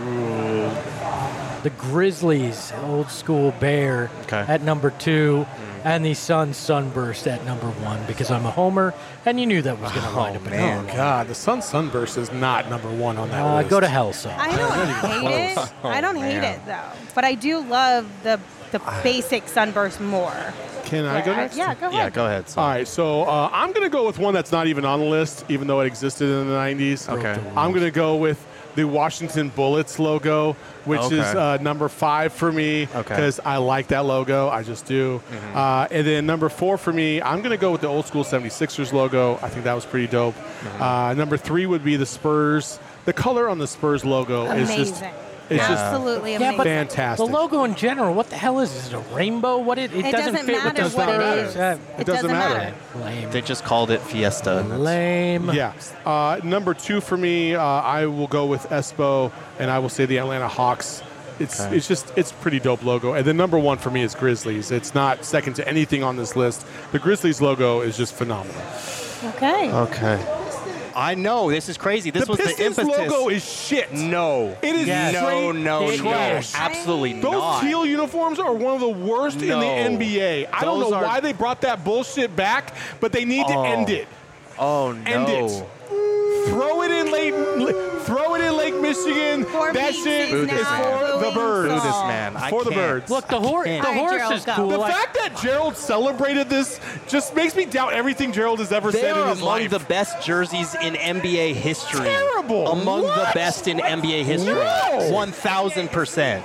Grizzlies, old school Bear, at number 2, and the Suns Sunburst at number 1 because I'm a homer, and you knew that was going to wind up.
Oh God, the Sun Sunburst is not number 1 on that list.
Go to hell, son.
I don't hate it. I don't hate it though, but I do love the basic Sunburst more.
Can I go next?
Yeah, go ahead.
Yeah, go ahead.
All right, so I'm going to go with one that's not even on the list, even though it existed in the 90s.
Okay.
I'm going to go with the Washington Bullets logo, which is number 5 for me because I like that logo. I just do. And then number 4 for me, I'm going to go with the old school 76ers logo. I think that was pretty dope. Number 3 would be the Spurs. The color on the Spurs logo is just
absolutely amazing.
but
fantastic.
The logo in general, what the hell is it? Is it a rainbow? What it doesn't fit with
matter
the
what it
Spurs.
is. It doesn't matter.
Lame.
They just called it Fiesta.
Lame.
Yeah. Number 2 for me, I will go with Espo, and I will say the Atlanta Hawks. It's pretty dope logo. And then number 1 for me is Grizzlies. It's not second to anything on this list. The Grizzlies logo is just phenomenal.
Okay. I know, this is crazy. This was the
Pistons
impetus.
logo is shit.
No.
It is
No.
trash.
Absolutely
Those
not.
teal uniforms are one of the worst in the NBA. I don't know why they brought that bullshit back, but they need to end it.
Oh, no.
End it. Throw it in Lake Michigan. That shit is for the birds.
Boo this man.
For the birds.
Look, the horse is cool.
The fact that Gerald celebrated this just makes me doubt everything Gerald has ever said in his
among
life.
the best jerseys in NBA history.
Terrible.
Among
What?
the best in NBA history.
No.
1,000%.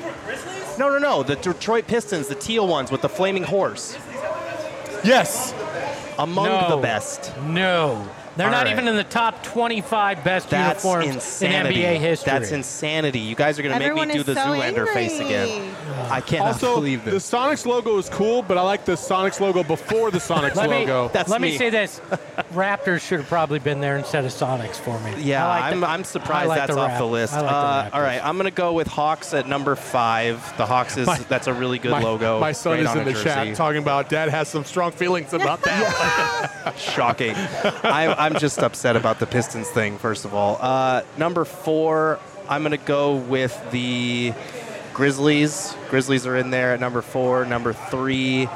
No. The Detroit Pistons, the teal ones with the flaming horse.
Yes.
Among the best.
No. They're
All
not
right.
even in the top 25 best
That's
uniforms
insanity.
in NBA history.
That's insanity. You guys are going to make
Everyone
me do
is
the
so
Zoolander
angry.
face again. I cannot
Also,
believe
the
this.
Sonics logo is cool, but I like the Sonics logo before the Sonics logo.
Let me
me.
say this. Raptors should have probably been there instead of Sonics for me.
Yeah,
I like
I'm surprised
I like
that's
the
off the list.
I like the
All right, I'm going to go with Hawks at number 5. The Hawks that's a really good logo.
My son
Great
is
on
in
a
the chat
jersey.
talking about Dad has some strong feelings about that.
Shocking. I'm just upset about the Pistons thing, first of all. Number 4, I'm going to go with the Grizzlies. Grizzlies are in there at number 4. Number 3,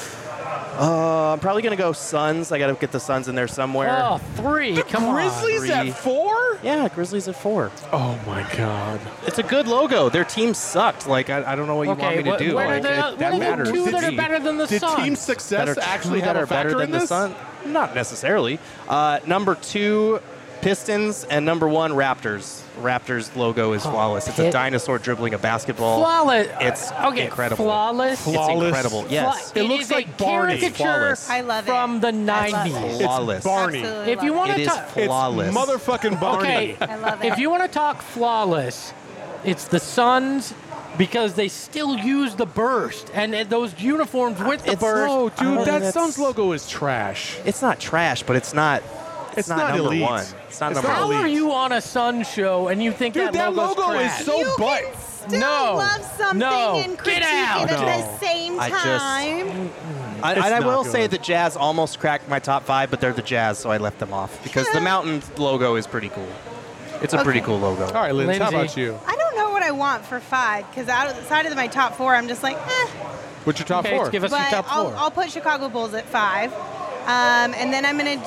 I'm probably going to go Suns. I got to get the Suns in there somewhere.
Oh, 3. Come on.
Grizzlies at 4?
Yeah, Grizzlies at 4.
Oh my God.
It's a good logo. Their team sucked. Like, I don't know what you want me to do.
What
Like,
are
that
the
matters.
2 that
to
are
me.
better than the
Did
Suns?
team success actually have a factor in
the
this?
Sun? Not necessarily. Number 2, Pistons, and number 1, Raptors. Raptors logo is flawless. It's a dinosaur dribbling a basketball.
Flawless.
It's incredible.
Flawless.
It's incredible. Yes.
It looks
is
like
a
Barney.
caricature
Flawless.
I love it.
from the
I love
90s.
it.
Flawless.
It's Barney.
Absolutely
If you
love
want
It
to
is
talk,
flawless.
It's motherfucking Barney.
okay,
I love it.
if you want to talk flawless, it's the Suns because they still use the burst and those uniforms with the
It's
burst.
No, dude, that
that's-
Suns logo is trash.
It's not trash, but it's not. It's not number
elite.
1. It's not
It's
number
not
How
1.
elite.
are you on a Suns show and you think
Dude, that
logo's
logo
trash?
is so
You
butt.
can still
No.
love something
No.
and
Get
critique
out.
it at
No.
the same
I just-
time.
And
It's
I
not
will
good.
say the Jazz almost cracked my top 5, but they're the Jazz, so I left them off because the Mountain logo is pretty cool. It's a pretty
Okay.
cool logo.
All right, Lindsay, how
Lindsay.
about you?
I don't know what I want for 5 because outside of my top 4, I'm just like,
What's your top
Okay,
4?
give us your
But
top 4.
I'll put Chicago Bulls at 5. And then I'm going to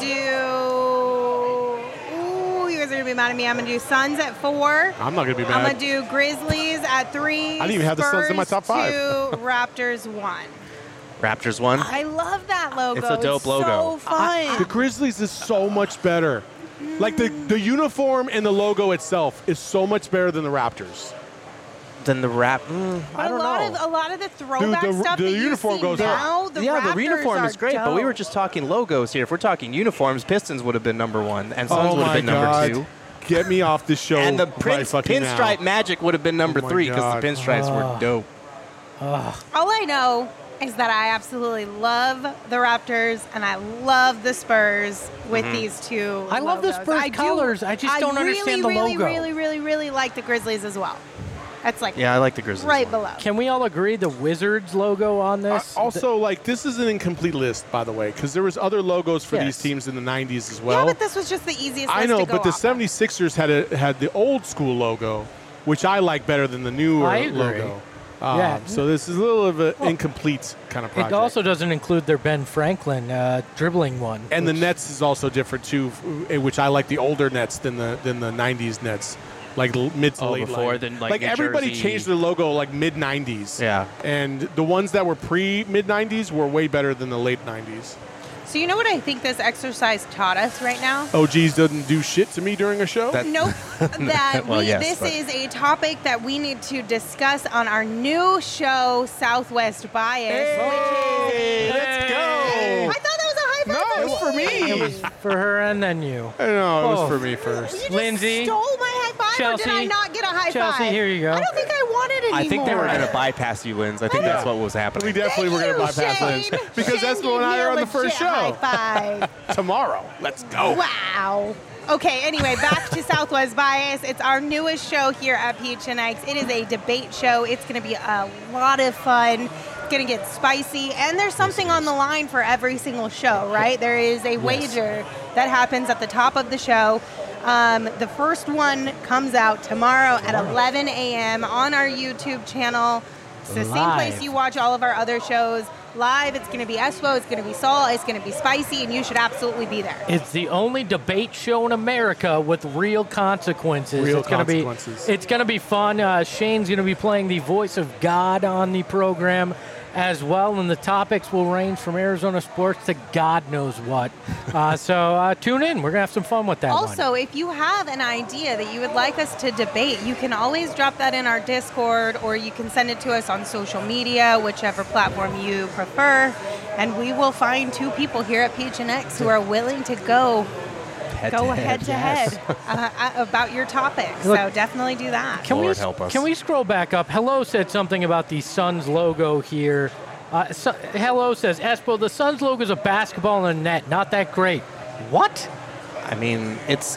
do. Ooh, you guys are going to be mad at me. I'm going to do Suns at 4.
I'm not going to be
I'm
mad.
going to do Grizzlies at 3.
I didn't even have the Suns in my top 5.
2, Raptors 1.
Raptors 1.
I love that logo.
It's a dope logo.
So fun.
The Grizzlies is so much better. Like the uniform and the logo itself is so much better than the Raptors.
Then the I
But
don't
a lot of the throwback
Dude, the
stuff
the
that you
uniform
see
goes
now, the
yeah,
Raptors
the uniform is
are
great, but we were
dope.
just talking logos here. If we're talking uniforms, Pistons would have been number 1, and Suns
Oh
would have
my
been number
God.
2.
Get me off the show.
And the
right fucking now.
Pinstripe Magic would have been number
Oh my
3 because
God.
the pinstripes were dope.
All I know is that I absolutely love the Raptors and I love the Spurs with these 2
I love the
logos.
Spurs colors. I just don't understand the
really,
logo.
really, really, really like the Grizzlies as well. That's like
Yeah, I like the Grizzlies.
right
one.
below.
Can we all agree the Wizards logo on this?
Also, like, this is an incomplete list, by the way, because there was other logos for
Yes.
these teams in the 90s as
Yeah,
well.
but this was just the easiest
I
list
know,
to go
but the
off of.
76ers had the old school logo, which I like better than the newer
I agree.
logo.
Yeah.
So this is a little of an incomplete kind of project.
it also doesn't include their Ben Franklin dribbling one.
and the
which-
Nets is also different too, which I like the older Nets than the 90s Nets, like mid to late.
before
line.
then, like New
everybody
Jersey.
changed their logo like mid 90s.
Yeah.
And the ones that were pre mid 90s were way better than the late 90s.
So you know what I think this exercise taught us right now?
OGs doesn't do shit to me during a show.
Nope. That
Well, yes,
this
but-
is a topic that we need to discuss on our new show, Southwest Bias,
Hey, let's go.
which is... I thought that was a high five.
No, it was for
It
me.
was for her and then you.
No, it was
Both.
for me
You
first.
just
Lindsay,
stole my high five, or did I
Chelsea,
not get a high
Chelsea,
five?
here you go.
I don't think I wanted it anymore.
I think they were going to bypass you, Linz. I think that's what was happening.
We definitely were going to bypass Lynn because
Shane
Espo and I
gave
are on
me
the
a
first
legit
show
High five.
tomorrow. Let's go.
Wow. Okay, anyway, back to Southwest Bias. It's our newest show here at PHNX. It is a debate show. It's going to be a lot of fun. It's going to get spicy, and there's something on the line for every single show, right? There is a wager that happens at the top of the show. The first one comes out tomorrow at 11 a.m. on our YouTube channel. It's the same place
Live.
you watch all of our other shows. Live, it's going to be Espo, it's going to be Saul, it's going to be spicy, and you should absolutely be there.
It's the only debate show in America with real consequences.
Real
it's gonna
consequences.
It's going to be fun. Shane's going to be playing the voice of God on the program as well, and the topics will range from Arizona sports to God knows what. So tune in. We're going to have some fun with that one.
Also, if you have an idea that you would like us to debate, you can always drop that in our Discord, or you can send it to us on social media, whichever platform you prefer, and we will find two people here at PHNX who are willing to go head to head about your topic.
Look,
so definitely do that.
Can
Lord help us.
Can we scroll back up? Hello said something about the Suns logo here. Hello says, Espo, the Suns logo is a basketball and a net. Not that great. What?
I mean, it's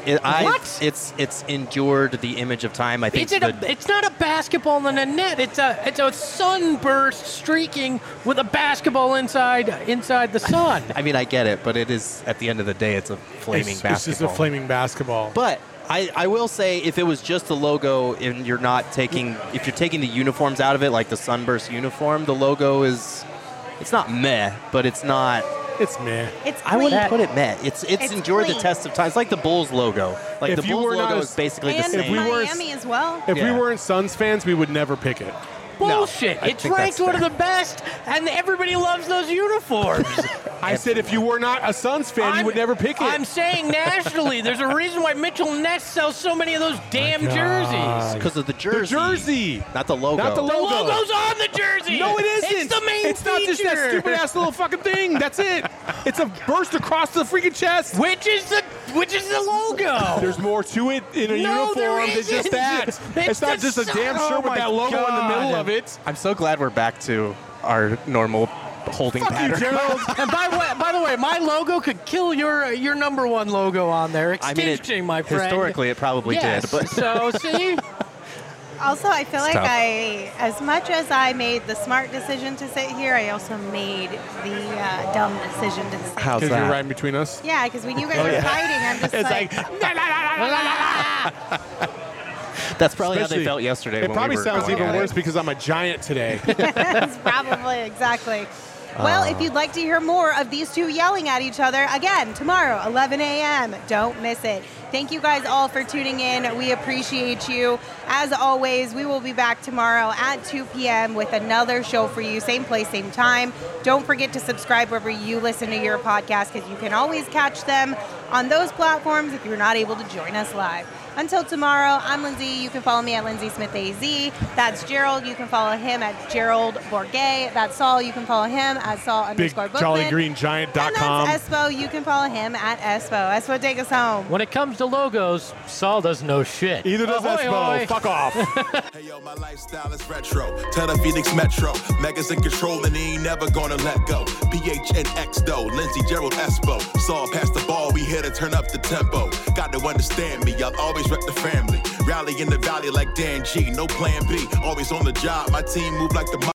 endured the image of time. I think
It's not a basketball and a net. It's a sunburst streaking with a basketball inside the sun.
I mean, I get it, but it is at the end of the day, it's a flaming
It's
basketball.
just a flaming basketball.
But I will say, if it was just the logo and you're taking the uniforms out of it, like the Sunburst uniform, the logo it's not meh, but it's not.
It's meh.
It's
I wouldn't
clean.
put it meh. It's endured the
clean.
test of time. It's like the Bulls logo. Like
If
the
you
Bulls
were not
logo
a-
is basically the
And
same.
If we weren't-
Miami as well.
If we
Yeah.
weren't Suns fans, we would never pick it.
Bullshit.
I
It's
think
ranked
that's
one of the best, and everybody loves those uniforms.
I said if you were not a Suns fan, you would never pick it.
I'm saying nationally, there's a reason why Mitchell Ness sells so many of those damn jerseys.
because of the jersey.
the jersey.
Not the logo.
Not the
The
logo.
logo's on the jersey.
No, it isn't.
It's the main
It's not just that
feature.
stupid ass little fucking thing. That's it. It's a burst across the freaking chest.
Which is the logo?
There's more to it in a
No, there
uniform than just
isn't.
that. It's not
the
just a
sun-
damn
Oh
shirt with
my
that logo in the middle
God.
of it.
I'm so glad we're back to our normal holding
Fuck you,
pattern.
Gerald.
And by the way, my logo could kill your number one logo on there.
I mean,
Extinction, my friend.
historically, it probably
yes.
did. But
So see,
Also, I feel like
tough.
as much as I made the smart decision to sit here, I also made the dumb decision to sit.
how's
Because you're
that?
right in between us.
Yeah, because when you guys are fighting, I'm just
It's
like,
That's probably how
Especially-
they felt yesterday.
It
when
probably
we were
sounds
going
even
at it.
worse because I'm a giant today.
That's probably exactly. Well, if you'd like to hear more of these two yelling at each other, again, tomorrow, 11 a.m., don't miss it. Thank you guys all for tuning in. We appreciate you. As always, we will be back tomorrow at 2 p.m. with another show for you. Same place, same time. Don't forget to subscribe wherever you listen to your podcast, because you can always catch them on those platforms if you're not able to join us live. Until tomorrow, I'm Lindsay. You can follow me at Lindsay Smith AZ. That's Gerald. You can follow him at Gerald Bourget. That's Saul. You can follow him at Saul_Bookman.
BigJollyGreenGiant.com.
And that's Espo. You can follow him at Espo. Espo, take us home.
when it comes to logos, Saul doesn't know shit.
Either does
Ahoy,
Espo.
ahoy.
Fuck off.
Hey yo, my lifestyle is retro. Tell the Phoenix Metro. Megas in control and he ain't never gonna let go. PHNX though, Lindsay, Gerald, Espo. Saw past the ball, we here to turn up the tempo. Got to understand me, I'll always rep the family. Rally in the valley like Dan G, no plan B. Always on the job, my team move like the